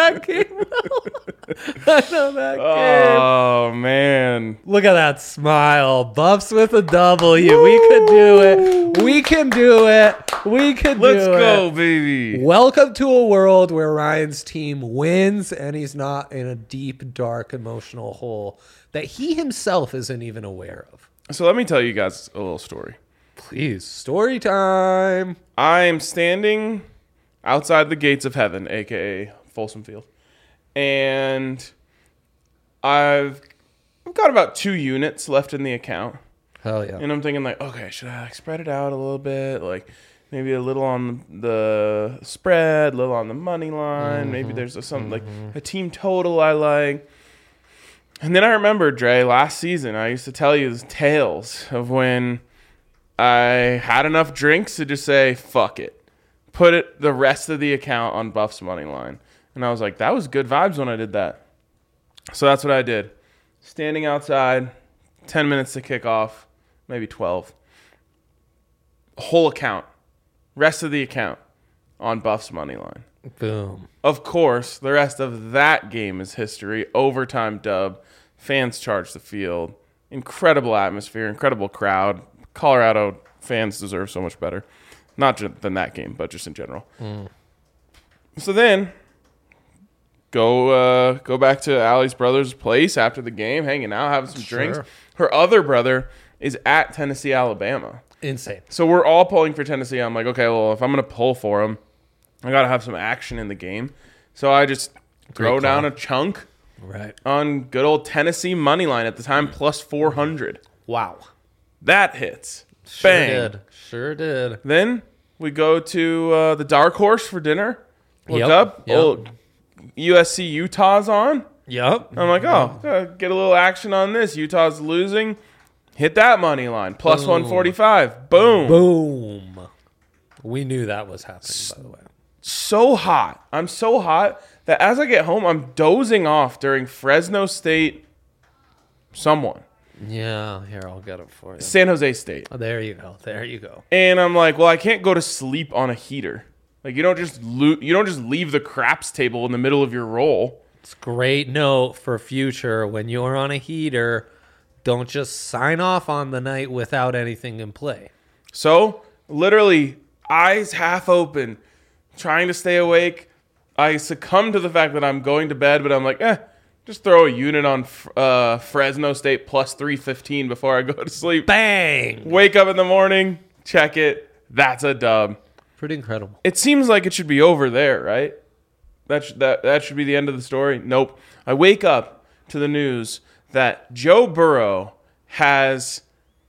that game. I know that game. Oh, man. Look at that smile. Buffs with a W. We could do it. We can do it. We can do it. Let's go, baby. Welcome to a world where Ryan's team wins and he's not in a deep, dark, emotional hole that he himself isn't even aware of. So let me tell you guys a little story. Please, story time. I'm standing outside the gates of heaven, a.k.a. Folsom Field. And I've got about 2 units left in the account. Hell yeah. And I'm thinking like, okay, should I spread it out a little bit? Like maybe a little on the spread, a little on the money line. Maybe there's like a team total I like. And then I remember, Dre, last season, I used to tell you the tales of when I had enough drinks to just say, fuck it. Put the rest of the account on Buff's money line. And I was like, that was good vibes when I did that. So that's what I did. Standing outside, 10 minutes to kick off, maybe 12. Whole account. Rest of the account on Buff's money line. Boom. Of course, the rest of that game is history. Overtime dub. Fans charge the field. Incredible atmosphere. Incredible crowd. Colorado fans deserve so much better. Not just than that game, but just in general. So then, go back to Allie's brother's place after the game, hanging out, having some drinks. Her other brother is at Tennessee, Alabama. Insane. So we're all pulling for Tennessee. I'm like, okay, well, if I'm going to pull for them, I got to have some action in the game. So I just throw down a chunk on good old Tennessee money line at the time, plus 400. Wow. That hits. Sure Bang. Sure did. Then we go to the Dark Horse for dinner. Look up. Old USC Utah's on. Yep. I'm like, get a little action on this. Utah's losing. Hit that money line. Plus 145. Boom. Boom. We knew that was happening, by the way. So hot. I'm so hot that as I get home, I'm dozing off during Fresno State someone. Yeah, here, I'll get it for you. San Jose State. Oh, there you go. There you go. And I'm like, well, I can't go to sleep on a heater. Like you don't just leave the craps table in the middle of your roll. It's a great note for future. When you're on a heater, don't just sign off on the night without anything in play. So, literally, eyes half open, trying to stay awake. I succumb to the fact that I'm going to bed, but I'm like, just throw a unit on Fresno State plus 315 before I go to sleep. Bang! Wake up in the morning, check it. That's a dub. Pretty incredible. It seems like it should be over there, right? That should be the end of the story. Nope. I wake up to the news that Joe Burrow has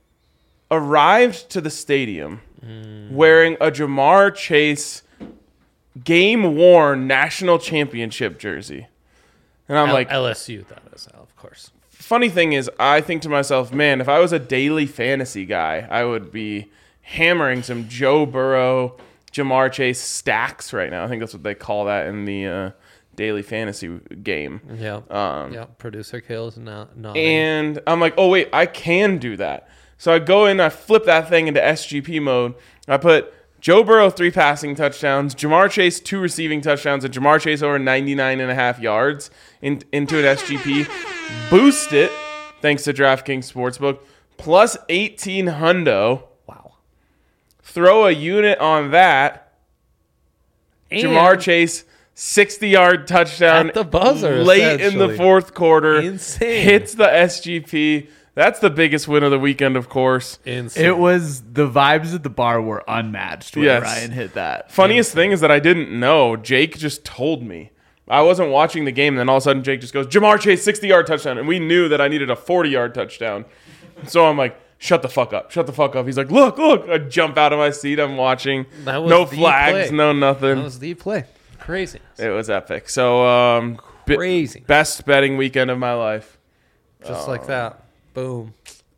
arrived to the stadium wearing a Ja'Marr Chase game-worn national championship jersey. And I'm like... LSU, that is, of course. Funny thing is, I think to myself, man, if I was a daily fantasy guy, I would be hammering some Joe Burrow, Ja'Marr Chase stacks right now. I think that's what they call that in the daily fantasy game. Yeah. Producer kills not. And I'm like, oh, wait, I can do that. So I go in, I flip that thing into SGP mode. I put Joe Burrow 3 passing touchdowns, Ja'Marr Chase 2 receiving touchdowns, and Ja'Marr Chase over 99.5 yards into an SGP. Boost it, thanks to DraftKings Sportsbook, plus 18 hundo. Wow. Throw a unit on that. And Ja'Marr Chase, 60-yard touchdown at the buzzer, late in the fourth quarter. Insane. Hits the SGP. That's the biggest win of the weekend, of course. Insane. It was the vibes at the bar were unmatched when Yes. Ryan hit that. Funniest thing is that I didn't know. Jake just told me. I wasn't watching the game, and then all of a sudden Jake just goes, Ja'Marr Chase, 60-yard touchdown. And we knew that I needed a 40-yard touchdown. So I'm like, shut the fuck up. Shut the fuck up. He's like, look. I jump out of my seat. I'm watching. That was no the flags, play. no nothing. That was the play. Crazy. It was epic. So, crazy. Best betting weekend of my life. Just like that. Boom.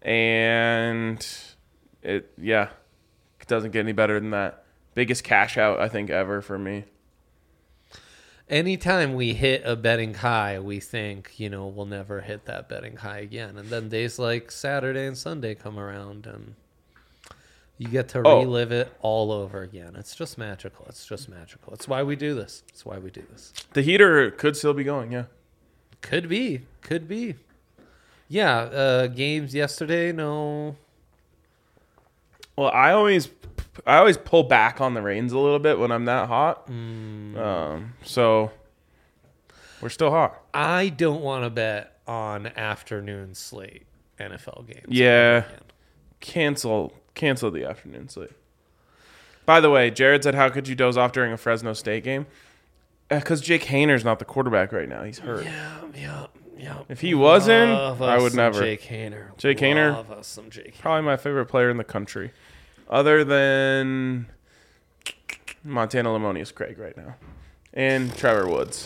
And it doesn't get any better than that. Biggest cash out, I think, ever for me. Anytime we hit a betting high, we think, we'll never hit that betting high again. And then days like Saturday and Sunday come around and You get to Oh. relive it all over again. It's just magical. It's just magical. It's why we do this. It's why we do this. The heater could still be going, yeah. Could be. Could be. Yeah, games yesterday, no. Well, I always pull back on the reins a little bit when I'm that hot. So we're still hot. I don't want to bet on afternoon slate NFL games. Yeah. ever again. Cancel the afternoon slate. By the way, Jared said, how could you doze off during a Fresno State game? Because Jake Hayner's not the quarterback right now. He's hurt. Yeah. If he wasn't, Love I us would some never. Jake Hayner. Jake Hayner? Love us some Jake Hayner. Probably my favorite player in the country. Other than Montana Lemonius Craig right now. And Trevor Woods.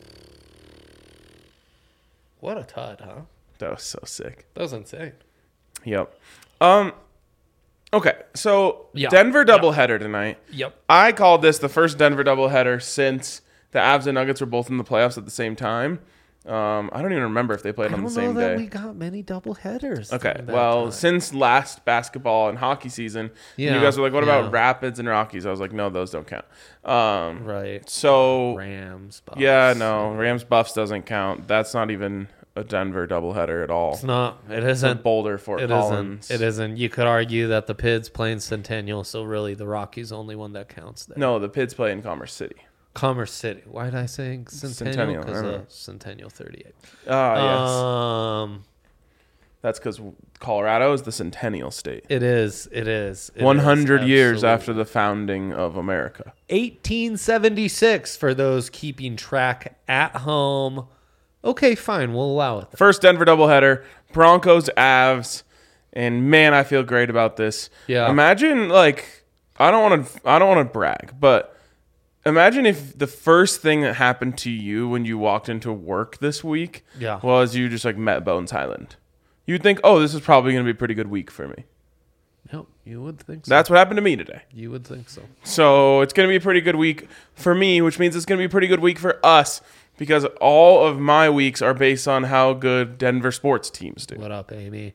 What a tud, huh? That was so sick. That was insane. Yep. Okay, so Yeah. Denver doubleheader tonight. Yep. I called this the first Denver doubleheader since the Avs and Nuggets were both in the playoffs at the same time. I don't even remember if they played I on don't the same know that day. we got many double headers. Okay, during that well, time. since last basketball and hockey season, Yeah, you guys were like, what yeah. about Rapids and Rockies? I was like, no, those don't count. Right. So, Rams. Bucks. yeah, no, Rams Buffs doesn't count. That's not even a Denver doubleheader at all. It's not. It It's a isn't. Boulder, Fort It Collins. isn't. It isn't. You could argue that the Pids playing Centennial, so really the Rockies only one that counts there. No, the Pids play in Commerce City. Commerce City. Why did I say Centennial? Centennial, I Because don't know. Centennial 38. Yes. That's because Colorado is the Centennial State. It is. It is. It 100 is, years absolutely. after the founding of America. 1876 for those keeping track at home. Okay, fine. We'll allow it. First Denver doubleheader, Broncos, Avs, and man, I feel great about this. Yeah. Imagine, like, I don't want to brag, but imagine if the first thing that happened to you when you walked into work this week Yeah. was you just like met Bones Highland. You'd think, oh, this is probably going to be a pretty good week for me. Yep, you would think so. That's what happened to me today. You would think so. So it's going to be a pretty good week for me, which means it's going to be a pretty good week for us because all of my weeks are based on how good Denver sports teams do. What up, Amy?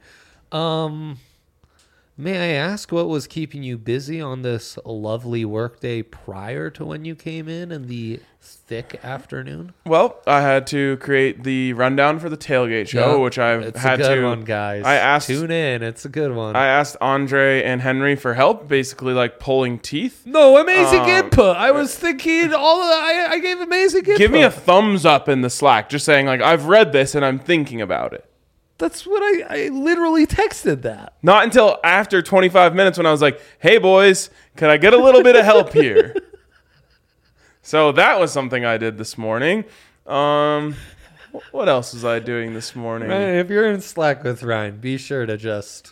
May I ask what was keeping you busy on this lovely workday prior to when you came in the thick afternoon? Well, I had to create the rundown for the tailgate show, Yeah, which I've it's had a good to. one, guys. I asked. Tune in. It's a good one. I asked Andre and Henry for help, basically like pulling teeth. No, amazing Um, input. I was thinking I gave amazing input. Give me a thumbs up in the Slack, just saying like I've read this and I'm thinking about it. That's what I literally texted that. Not until after 25 minutes when I was like, "Hey boys, can I get a little bit of help here?" So that was something I did this morning. What else was I doing this morning? Ryan, if you're in Slack with Ryan, be sure to just,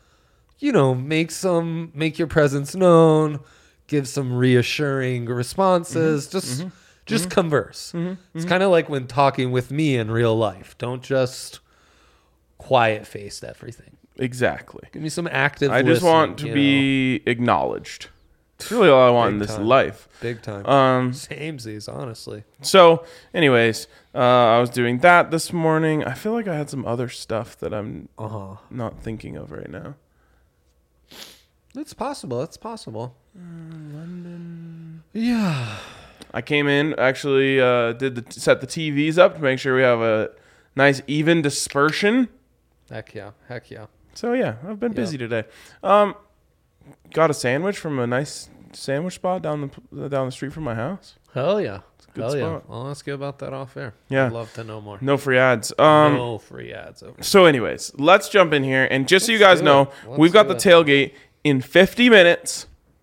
make your presence known, give some reassuring responses, just converse. It's kind of like when talking with me in real life. Don't just quiet-faced everything. Exactly. Give me some active I just listening, want to be acknowledged. It's really all I want in Big this time. life. Big time. Samesies, honestly. So, anyways, I was doing that this morning. I feel like I had some other stuff that I'm not thinking of right now. It's possible. It's possible. London. Yeah. I came in, actually set the TVs up to make sure we have a nice even dispersion. Heck yeah. Heck yeah. So yeah, I've been busy today. Got a sandwich from a nice sandwich spot down the street from my house. Hell yeah. good Hell yeah. spot. I'll ask you about that off air. Yeah. I'd love to know more. No free ads. No free ads over. So anyways, let's jump in here. And just so you Let's guys do know, it. Let's we've got do the it. tailgate in 50 minutes.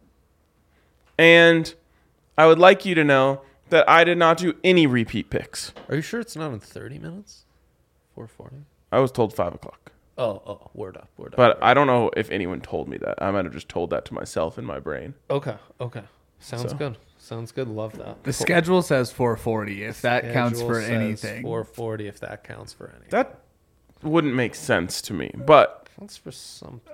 And I would like you to know that I did not do any repeat picks. Are you sure it's not in 30 minutes? 4:40. I was told 5 o'clock. Oh, word up. But I don't know if anyone told me that. I might have just told that to myself in my brain. Okay. Sounds So. good. Sounds good. Love that. The schedule says 4:40. If that counts Schedule for says anything. 4:40 if that counts for anything. That wouldn't make sense to me. But, Counts for something.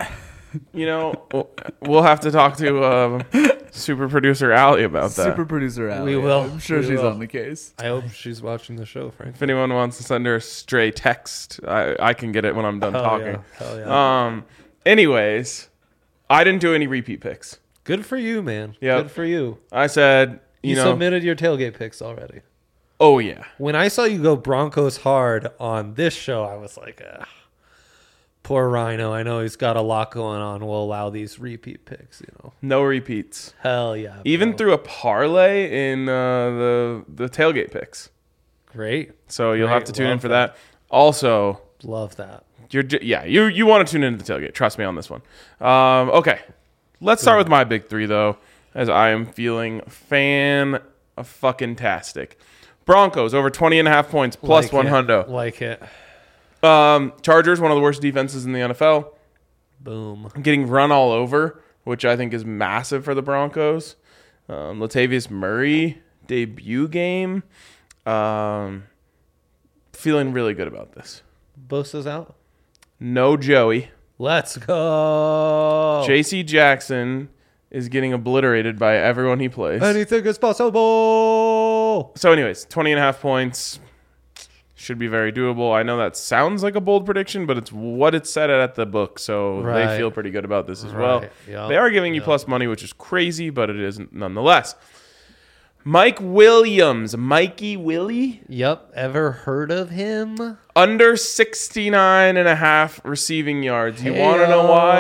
we'll have to talk to super producer Allie about that. Super producer Allie. We will. I'm sure We she's will. on the case. I hope she's watching the show, Frank. If anyone wants to send her a stray text, I can get it when I'm done talking. Hell yeah. Anyways, I didn't do any repeat picks. Good for you, man. Yep. Good for you. I said, You know, submitted your tailgate picks already. oh yeah. When I saw you go Broncos hard on this show, I was like, poor Rhino. I know he's got a lot going on. We'll allow these repeat picks, No repeats. Hell yeah. Even bro. through a parlay in the tailgate picks. Great. So you'll have to tune in Love for that. Also, Love that. you want to tune into the tailgate. Trust me on this one. Okay. Let's start with my big three, though, as I am feeling fan-fucking-tastic. Broncos over 20.5 points, plus Like 100. Like it. Chargers, one of the worst defenses in the NFL. Boom. Getting run all over, which I think is massive for the Broncos. Latavius Murray, debut game. Feeling really good about this. Bosa's out. No Joey. Let's go. J.C. Jackson is getting obliterated by everyone he plays. Anything is possible. So anyways, 20.5 points should be very doable. I know that sounds like a bold prediction, but it's what it's set at the book, so Right. they feel pretty good about this as well. Right. Yep. They are giving you plus money, which is crazy, but it is nonetheless. Mike Williams, Mikey Willie, Yep. Ever heard of him? under 69.5 receiving yards. You want to know why?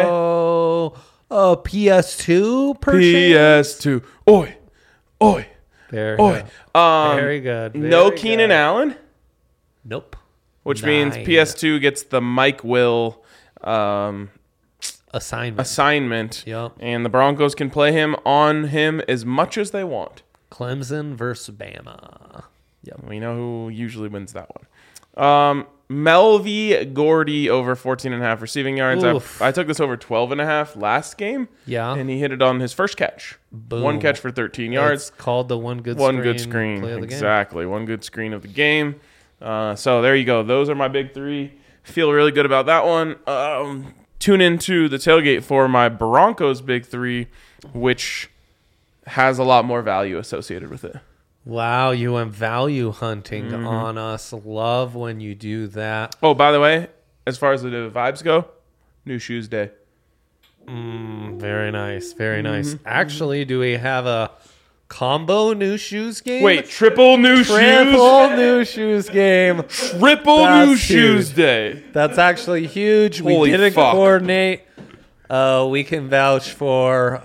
PS2 per PS2. Oi. Very Oi. good. Very good. No Very Keenan good. Allen, Nope. which means Nine. PS2 gets the Mike Will Assignment. assignment, Yep. and the Broncos can play him on him as much as they want. Clemson versus Bama. Yep. We know who usually wins that one. Melvie Gordy over 14.5 receiving yards. Oof. I took this over 12.5 last game, Yeah. and he hit it on his first catch. Boom. One catch for 13 yards. It's called the one good Screen. play of the game. Exactly. One good screen of the game. So there you go. Those are my big three. Feel really good about that one. Tune into the tailgate for my Broncos big three, which has a lot more value associated with it. Wow, you went value hunting Mm-hmm. on us. Love when you do that. Oh, by the way, as far as the vibes go, New Shoes Day. Very nice. Very Mm-hmm. nice. Actually, do we have a combo new shoes game? Wait, triple new shoes? Triple new shoes game. Triple That's new shoes huge. day. That's actually huge. We Holy didn't fuck. coordinate. We can vouch for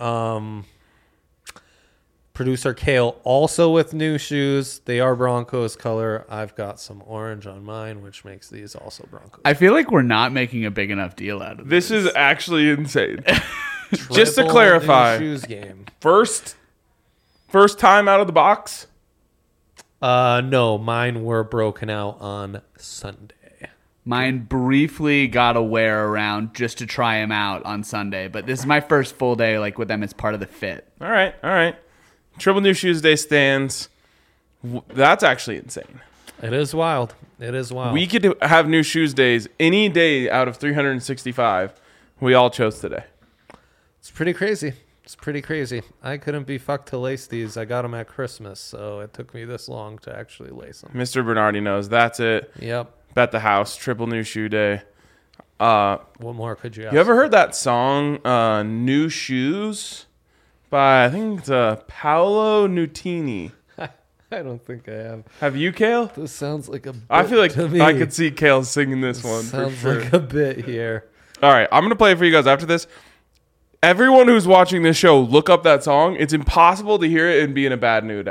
producer Kale also with new shoes. They are Broncos color. I've got some orange on mine, which makes these also Broncos. I feel like we're not making a big enough deal out of this. This is actually insane. Just to Triple clarify, new shoes game. first time out of the box. No, mine were broken out on Sunday. Mine briefly got a wear around just to try him out on Sunday, but this is my first full day like with them as part of the fit. All right. Triple New Shoes Day stands. That's actually insane. It is wild. It is wild. We could have New Shoes Days any day out of 365. We all chose today. It's pretty crazy. It's pretty crazy. I couldn't be fucked to lace these. I got them at Christmas, so it took me this long to actually lace them. Mr. Bernardi knows. That's it. Yep. Bet the house. Triple New Shoe Day. What more could you ask? You ever heard that song, New Shoes? By, I think it's Paolo Nutini. I don't think I have. Have you, Kale? This sounds like a bit I feel like to me. I could see Kale singing this one for Sounds sure. like a bit here. All right, I'm going to play it for you guys after this. Everyone who's watching this show, look up that song. It's impossible to hear it and be in a bad mood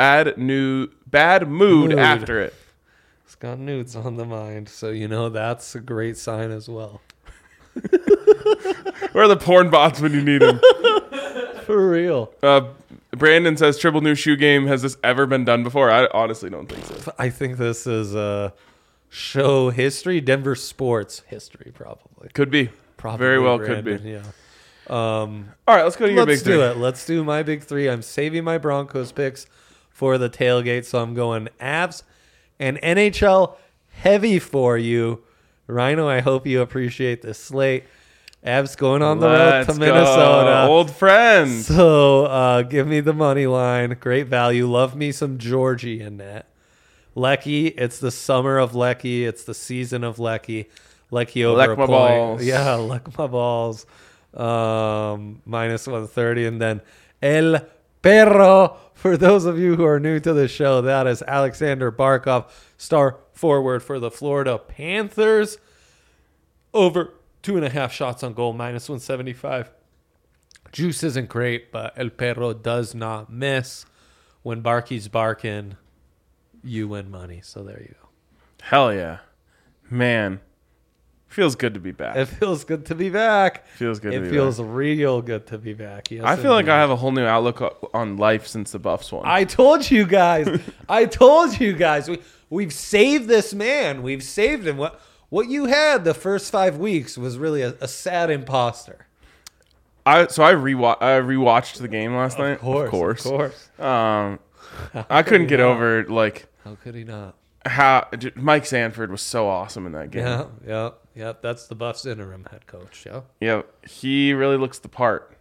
after it. It's got nudes on the mind, so you know that's a great sign as well. Where are the porn bots when you need them? For real. Brandon says, triple new shoe game. Has this ever been done before? I honestly don't think so. I think this is show history, Denver sports history, probably. Could be. Probably Very well could Brandon, be. Yeah. All right, let's go to your big Let's do three. it. Let's do my big three. I'm saving my Broncos picks for the tailgate, so I'm going Avs and NHL heavy for you. Rhino, I hope you appreciate this slate. Avs going on the road to Let's Minnesota. go. Old friends. So give me the money line. Great value. Love me some Georgie in that. Lecky, it's the summer of Lecky. It's the season of Lecky. Lecky over Leck a my point. balls. Yeah, leck my balls. minus 130. And then El Perro, for those of you who are new to the show, that is Alexander Barkov, star forward for the Florida Panthers. Over 2.5 shots on goal, minus 175. Juice isn't great, but El Perro does not miss. When Barky's barking, you win money. So there you go. Hell yeah. Man. Feels good to be back. It feels good to be back. Feels good to be It feels back. real good to be back. Yes, I feel like indeed. I have a whole new outlook on life since the Buffs won. I told you guys. I told you guys. We've saved this man. We've saved him. What you had the first 5 weeks was really a sad imposter. I rewatched the game last night. Of course. I couldn't get over like How could he not? how Mike Sanford was so awesome in that game. Yeah. That's the Buffs interim head coach. Yeah. Yeah, he really looks the part.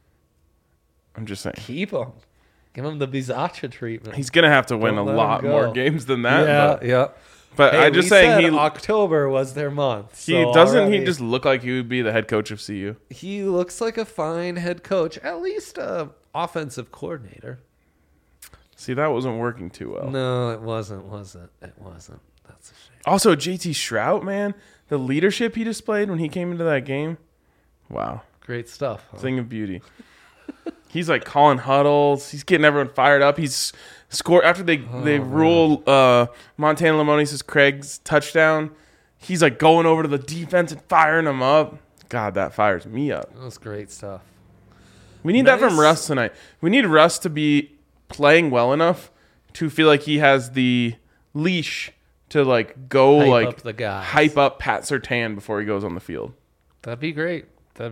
I'm just saying. Keep him. Give him the Bizacha treatment. He's going to have to win Don't a let lot him go. more games than that. Yeah. But Hey, I'm just we saying said he October was their month. he so doesn't already- he just look like he would be the head coach of CU? He looks like a fine head coach, at least a offensive coordinator. See, that wasn't working too well. No, it wasn't. It wasn't. That's a shame. Also, JT Shrout, man, the leadership he displayed when he came into that game. Wow. Great stuff. Huh? Thing of beauty. He's like calling huddles. He's getting everyone fired up. He's scored after they rule Montana Lamoni's Craig's touchdown. He's like going over to the defense and firing them up. God, that fires me up. That was great stuff. We need that Nice. from Russ tonight. We need Russ to be playing well enough to feel like he has the leash to like go Hype like up the guys. hype up Pat Surtain before he goes on the field. That'd be great.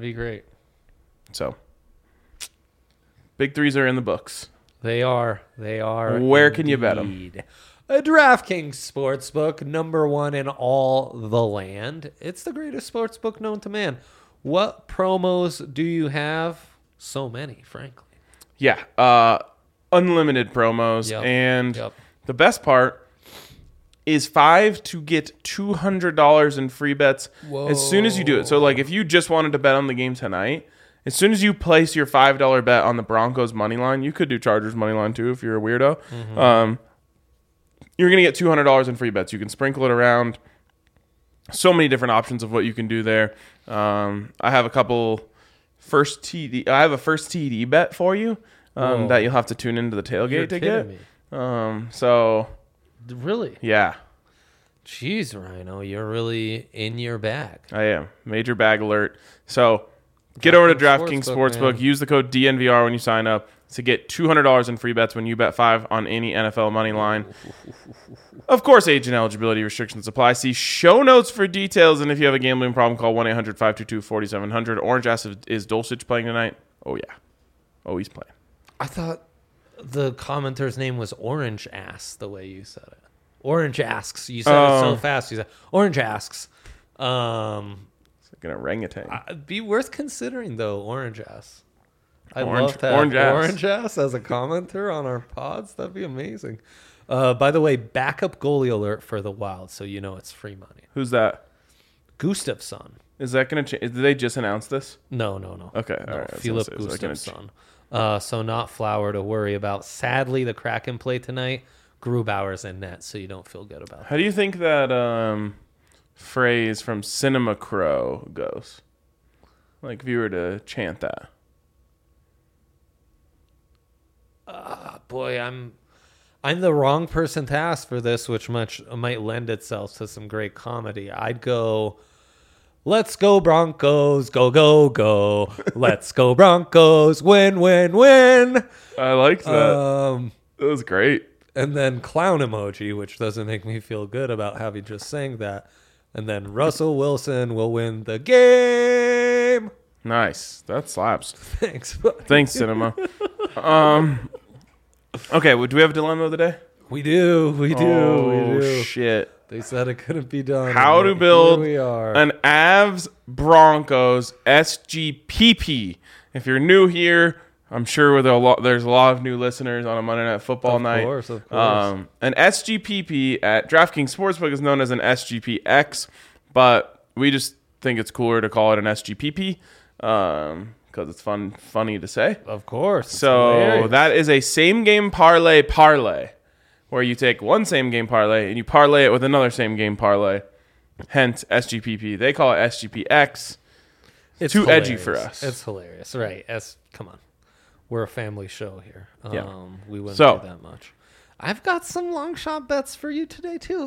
So, big threes are in the books. They are. Where can you bet 'em? indeed. A DraftKings sportsbook, #1 in all the land. It's the greatest sportsbook known to man. What promos do you have? So many, frankly. Yeah, unlimited promos, Yep. and Yep. the best part is 5 to get $200 in free bets as soon as you do it. So, like, if you just wanted to bet on the game tonight, as soon as you place your $5 bet on the Broncos money line, you could do Chargers money line too if you're a weirdo. You're gonna get $200 in free bets. You can sprinkle it around. So many different options of what you can do there. I have a couple first TD. I have a first TD bet for you that you'll have to tune into the tailgate You're to kidding get. me. So Really? yeah, Jeez, Rhino, you're really in your bag. I am. Major bag alert. So get over to DraftKings Sportsbook. man. Use the code DNVR when you sign up to get $200 in free bets when you bet 5 on any NFL money line. Of course, age and eligibility restrictions apply. See show notes for details. And if you have a gambling problem, call 1-800-522-4700. Orange Ass is Dulcich playing tonight? Oh, yeah. Oh, he's playing. I thought the commenter's name was Orange Ass, the way you said it. Orange Asks. You said it so fast. You said Orange Asks. It's like an orangutan. It'd be worth considering, though, Orange Ass. I'd Orange- love to have Orange Ass. Orange Ass as a commenter on our pods. That'd be amazing. By the way, backup goalie alert for the Wild, so you know it's free money. Who's that? Gustafsson. Is that going to change? Did they just announce this? No. Okay, No, all right. I was Philip gonna say, is that gonna Gustafsson. So not Flower to worry about. Sadly, the Kraken play tonight. Grubauer's in net, so you don't feel good about How do you think that phrase from Cinema Crow goes? Like if you were to chant that. that. Boy, I'm the wrong person to ask for this, which might lend itself to some great comedy. I'd go, let's go Broncos, go, go, go. Let's go Broncos, win, win, win. I liked that. It was great. And then clown emoji, which doesn't make me feel good about having just sang that. And then Russell Wilson will win the game. Nice. That slaps. Thanks, buddy. Thanks, Cinema. Okay, well, do we have a dilemma of the day? We do. Oh, shit. They said it couldn't be done. How and to yet build here we are. an Avs Broncos SGPP. If you're new here, I'm sure there's a lot of new listeners on a Monday Night Football night. Of course. An SGPP at DraftKings Sportsbook is known as an SGPX, but we just think it's cooler to call it an SGPP. because it's funny to say. Of course. It's So hilarious. that is a same game parlay, where you take one same game parlay and you parlay it with another same game parlay. Hence SGPP. They call it SGPX. It's too edgy hilarious. for us. It's hilarious, right? Come on, we're a family show here. Yeah. We wouldn't So- do that much. I've got some long shot bets for you today too.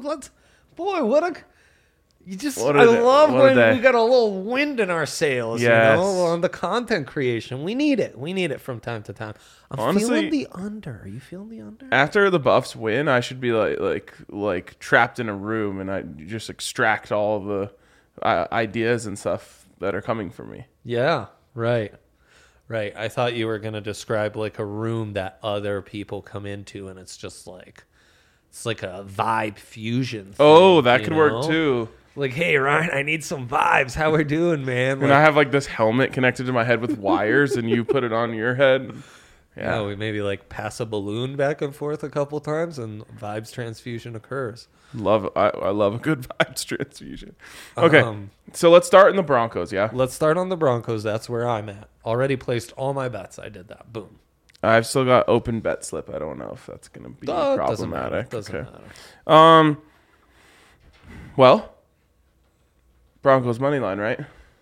What I are they? love What are when they? we got a little wind in our sails, Yes. on the content creation. We need it from time to time. I'm Honestly- feeling the under. Are you feeling the under? After the Buffs win, I should be like trapped in a room and I just extract all of the ideas and stuff that are coming from me. Yeah, right. I thought you were going to describe like a room that other people come into and it's just like it's like a vibe fusion thing, Oh, that you could know? work too. Like, hey Ryan, I need some vibes. How we doing, man? And I have like this helmet connected to my head with wires and you put it on your head. Yeah. we maybe like pass a balloon back and forth a couple times and vibes transfusion occurs. I love a good vibes transfusion. Okay. Um, So let's start in the Broncos, yeah? Let's start on the Broncos. That's where I'm at. Already placed all my bets. I did that. Boom. I've still got open bet slip. I don't know if that's going to be Doesn't matter. problematic. Doesn't Okay. matter. Well, Broncos money line, right?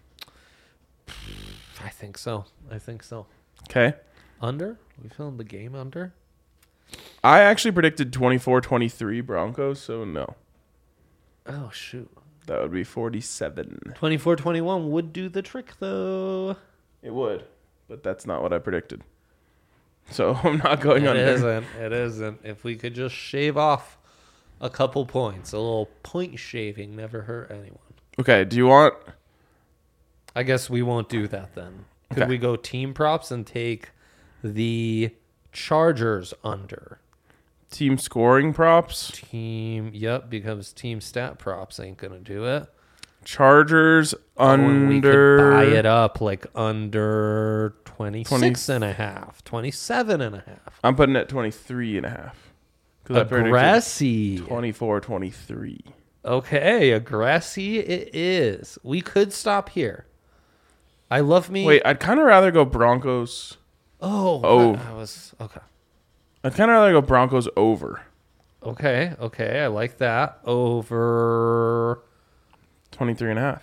I think so. Okay. Under? We filmed the game under? I actually predicted 24-23 Broncos, so no. Oh, shoot. That would be 47. 24-21 would do the trick, though. It would, but that's not what I predicted. So I'm not going It under. isn't. If we could just shave off a couple points, a little point shaving never hurt anyone. Okay, do you want... I guess we won't do that then. Could Okay. we go team props and take the Chargers under? Team scoring props? Because team stat props ain't going to do it. Chargers And we could under... buy it up like under 26 and a half, 27 and a half. I'm putting it at 23.5. Aggressive. 24-23. Okay, aggressive it is. We could stop here. I love me. Wait, I'd kind of rather go Broncos. Oh. I was okay. I'd kind of rather go Broncos over. Okay. I like that. Over. 23.5.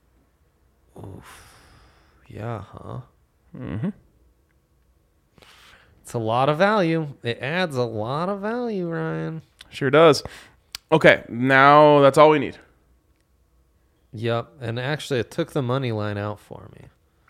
Yeah, huh? Mm-hmm. It's a lot of value. It adds a lot of value, Ryan. Sure does. Okay, now that's all we need. Yep. And actually, it took the money line out for me.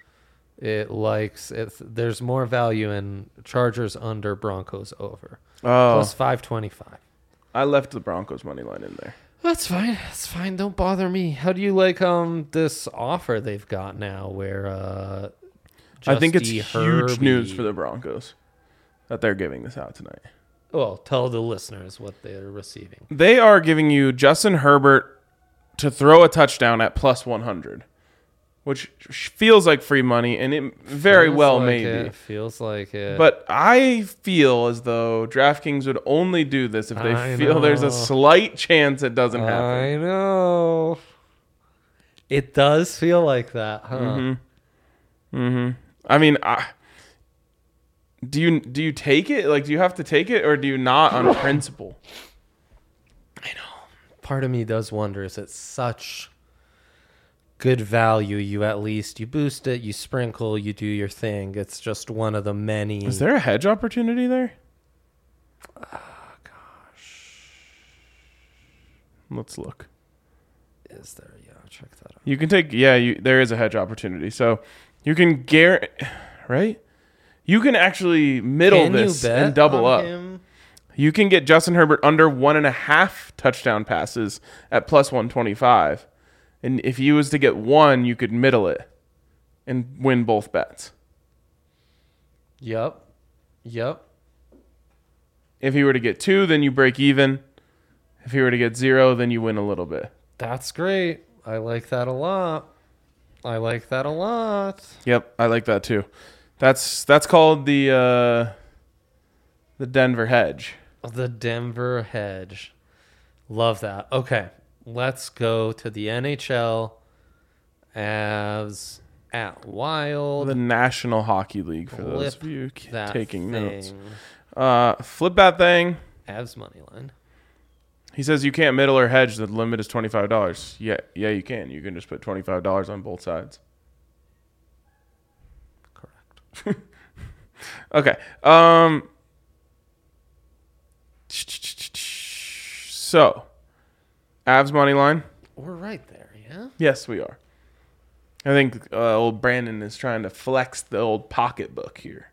There's more value in Chargers under, Broncos over. Oh, Plus 525. I left the Broncos money line in there. That's fine. Don't bother me. How do you like this offer they've got now where I think it's Justy huge news Herbie- for the Broncos that they're giving this out tonight. Well, tell the listeners what they're receiving. They are giving you Justin Herbert to throw a touchdown at plus 100, which feels like free money, and it very Feels well like may it, be. Feels like it. But I feel as though DraftKings would only do this if they I feel there's know. a slight chance it doesn't happen. I know. It does feel like that, huh? I mean, do you take it? Like, do you have to take it, or do you not on principle? Part of me does wonder, is it such good value? You boost it, you sprinkle, you do your thing. It's just one of the many. Is there a hedge opportunity there? Let's look. Is there? Yeah, check that out. You can take, there is a hedge opportunity. So you can right? You can actually middle Can this you bet and double on up. him? You can get Justin Herbert under 1.5 touchdown passes at plus 125. And if he was to get one, you could middle it and win both bets. Yep. If he were to get 2, then you break even. If he were to get 0, then you win a little bit. That's great. I like that a lot. Yep, I like that too. That's called the Denver hedge. The Denver hedge. Love that. Okay, let's go to the NHL as at Wild. The National Hockey League, for those of you that taking notes. thing. Flip that thing. Avs money line. He says you can't middle or hedge. The limit is $25. Yeah, you can. You can just put $25 on both sides. Correct. Okay. So, Avs money line. We're right there, yeah? Yes, we are. I think old Brandon is trying to flex the old pocketbook here.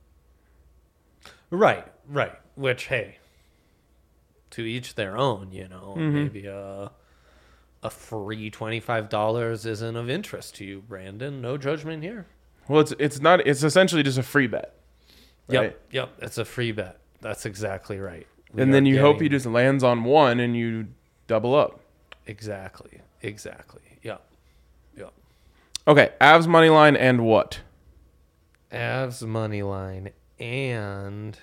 Right. Which, hey, to each their own, you know. Maybe a free $25 isn't of interest to you, Brandon. No judgment here. Well, it's not. It's essentially just a free bet. Right? Yep. It's a free bet. That's exactly right. And then you hope he just lands on one and you double up. Exactly. Yep. Okay, Avs money line and what? Avs money line and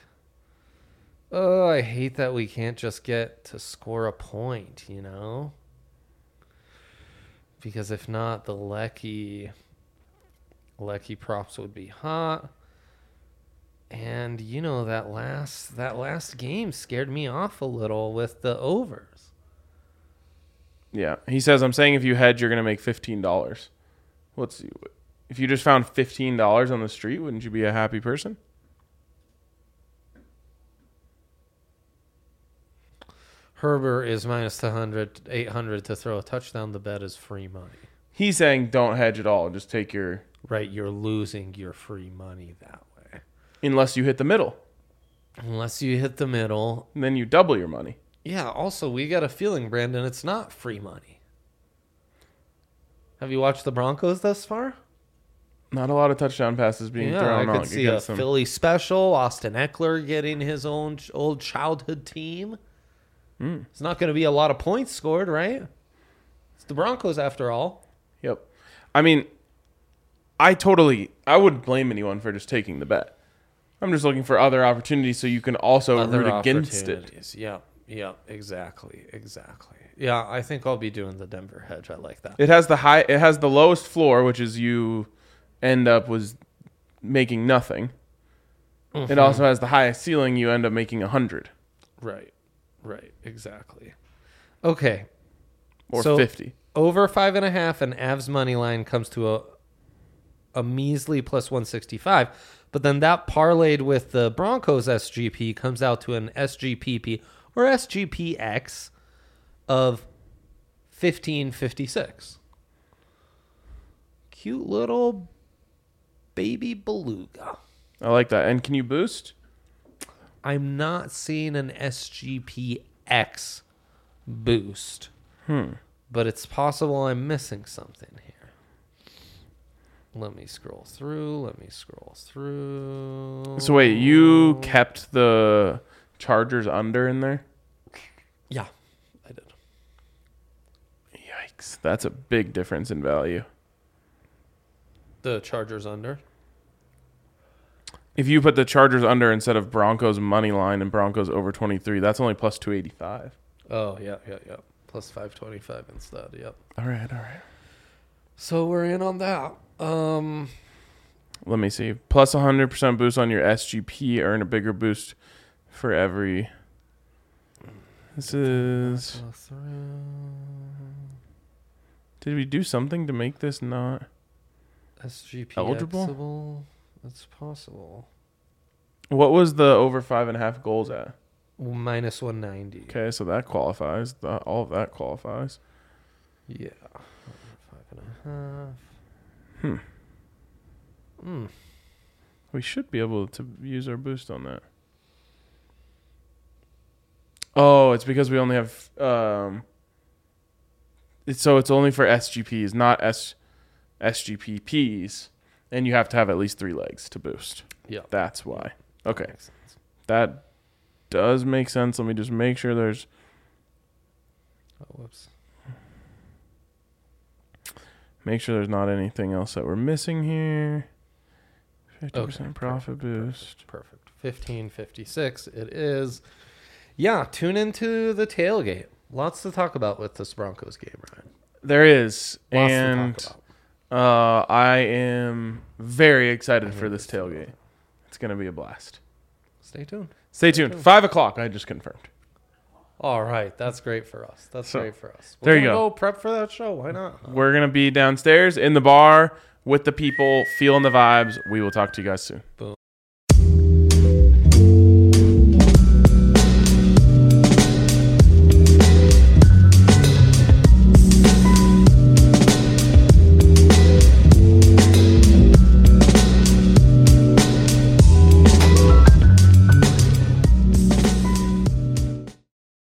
I hate that we can't just get to score a point, you know? Because if not, the Lecky props would be hot. And you know that last game scared me off a little with the overs. Yeah, he says I'm saying if you hedge, you're gonna make $15. If you just found $15 on the street, wouldn't you be a happy person? Herbert is minus 800 to throw a touchdown. The bet is free money. He's saying don't hedge at all. Just take your... Right, you're losing your free money that way. Unless you hit the middle. Unless you hit the middle. And then you double your money. Yeah, also, we got a feeling, Brandon, it's not free money. Have you watched the Broncos thus far? Not a lot of touchdown passes being thrown I out could see a Philly special. Austin Eckler getting his own old childhood team. It's not going to be a lot of points scored, right? It's the Broncos after all. Yep. I mean, I wouldn't blame anyone for just taking the bet. I'm just looking for other opportunities so you can also root against it. Yeah, exactly. Yeah, I think I'll be doing the Denver hedge. I like that. It has the lowest floor, which is you end up making nothing. It also has the highest ceiling, you end up making 100. Right, exactly. Okay. Or 50. Over 5.5 and Avs money line comes to a measly plus 165. But then that parlayed with the Broncos SGP comes out to an SGPP or SGPX of 1556. Cute little baby beluga. I like that. And can you boost? I'm not seeing an SGPX boost. But it's possible I'm missing something here. Let me scroll through. So wait, you kept the Chargers under in there? Yeah, I did. Yikes. That's a big difference in value. The Chargers under? If you put the Chargers under instead of Broncos money line and Broncos over 23, that's only plus 285. Oh, yeah. Plus 525 instead, yep. All right. So we're in on that. Let me see. Plus 100% boost on your SGP. Earn a bigger boost for every... This is... Did we do something to make this not... SGP eligible? That's possible. What was the over 5.5 goals at? Minus 190. Okay, so that qualifies. All of that qualifies. Yeah. 5.5. We should be able to use our boost on that. Oh, it's because we only have... So it's only for SGPs, not SGPPs. And you have to have at least 3 legs to boost. Yeah. That's why. Okay. That does make sense. Let me just make sure there's... Oh, whoops. Make sure there's not anything else that we're missing here. 50% Okay, profit boost. Perfect. 1556 it is. Yeah, tune into the tailgate. Lots to talk about with this Broncos game, Ryan. There is. Lots And to talk I am very excited for this tailgate. It's going to be a blast. Stay tuned. Stay tuned. 5 o'clock. I just confirmed. All right, that's great for us. That's So, great for us. there you gonna go. Prep for that show. Why not? We're going to be downstairs in the bar with the people, feeling the vibes. We will talk to you guys soon. Boom.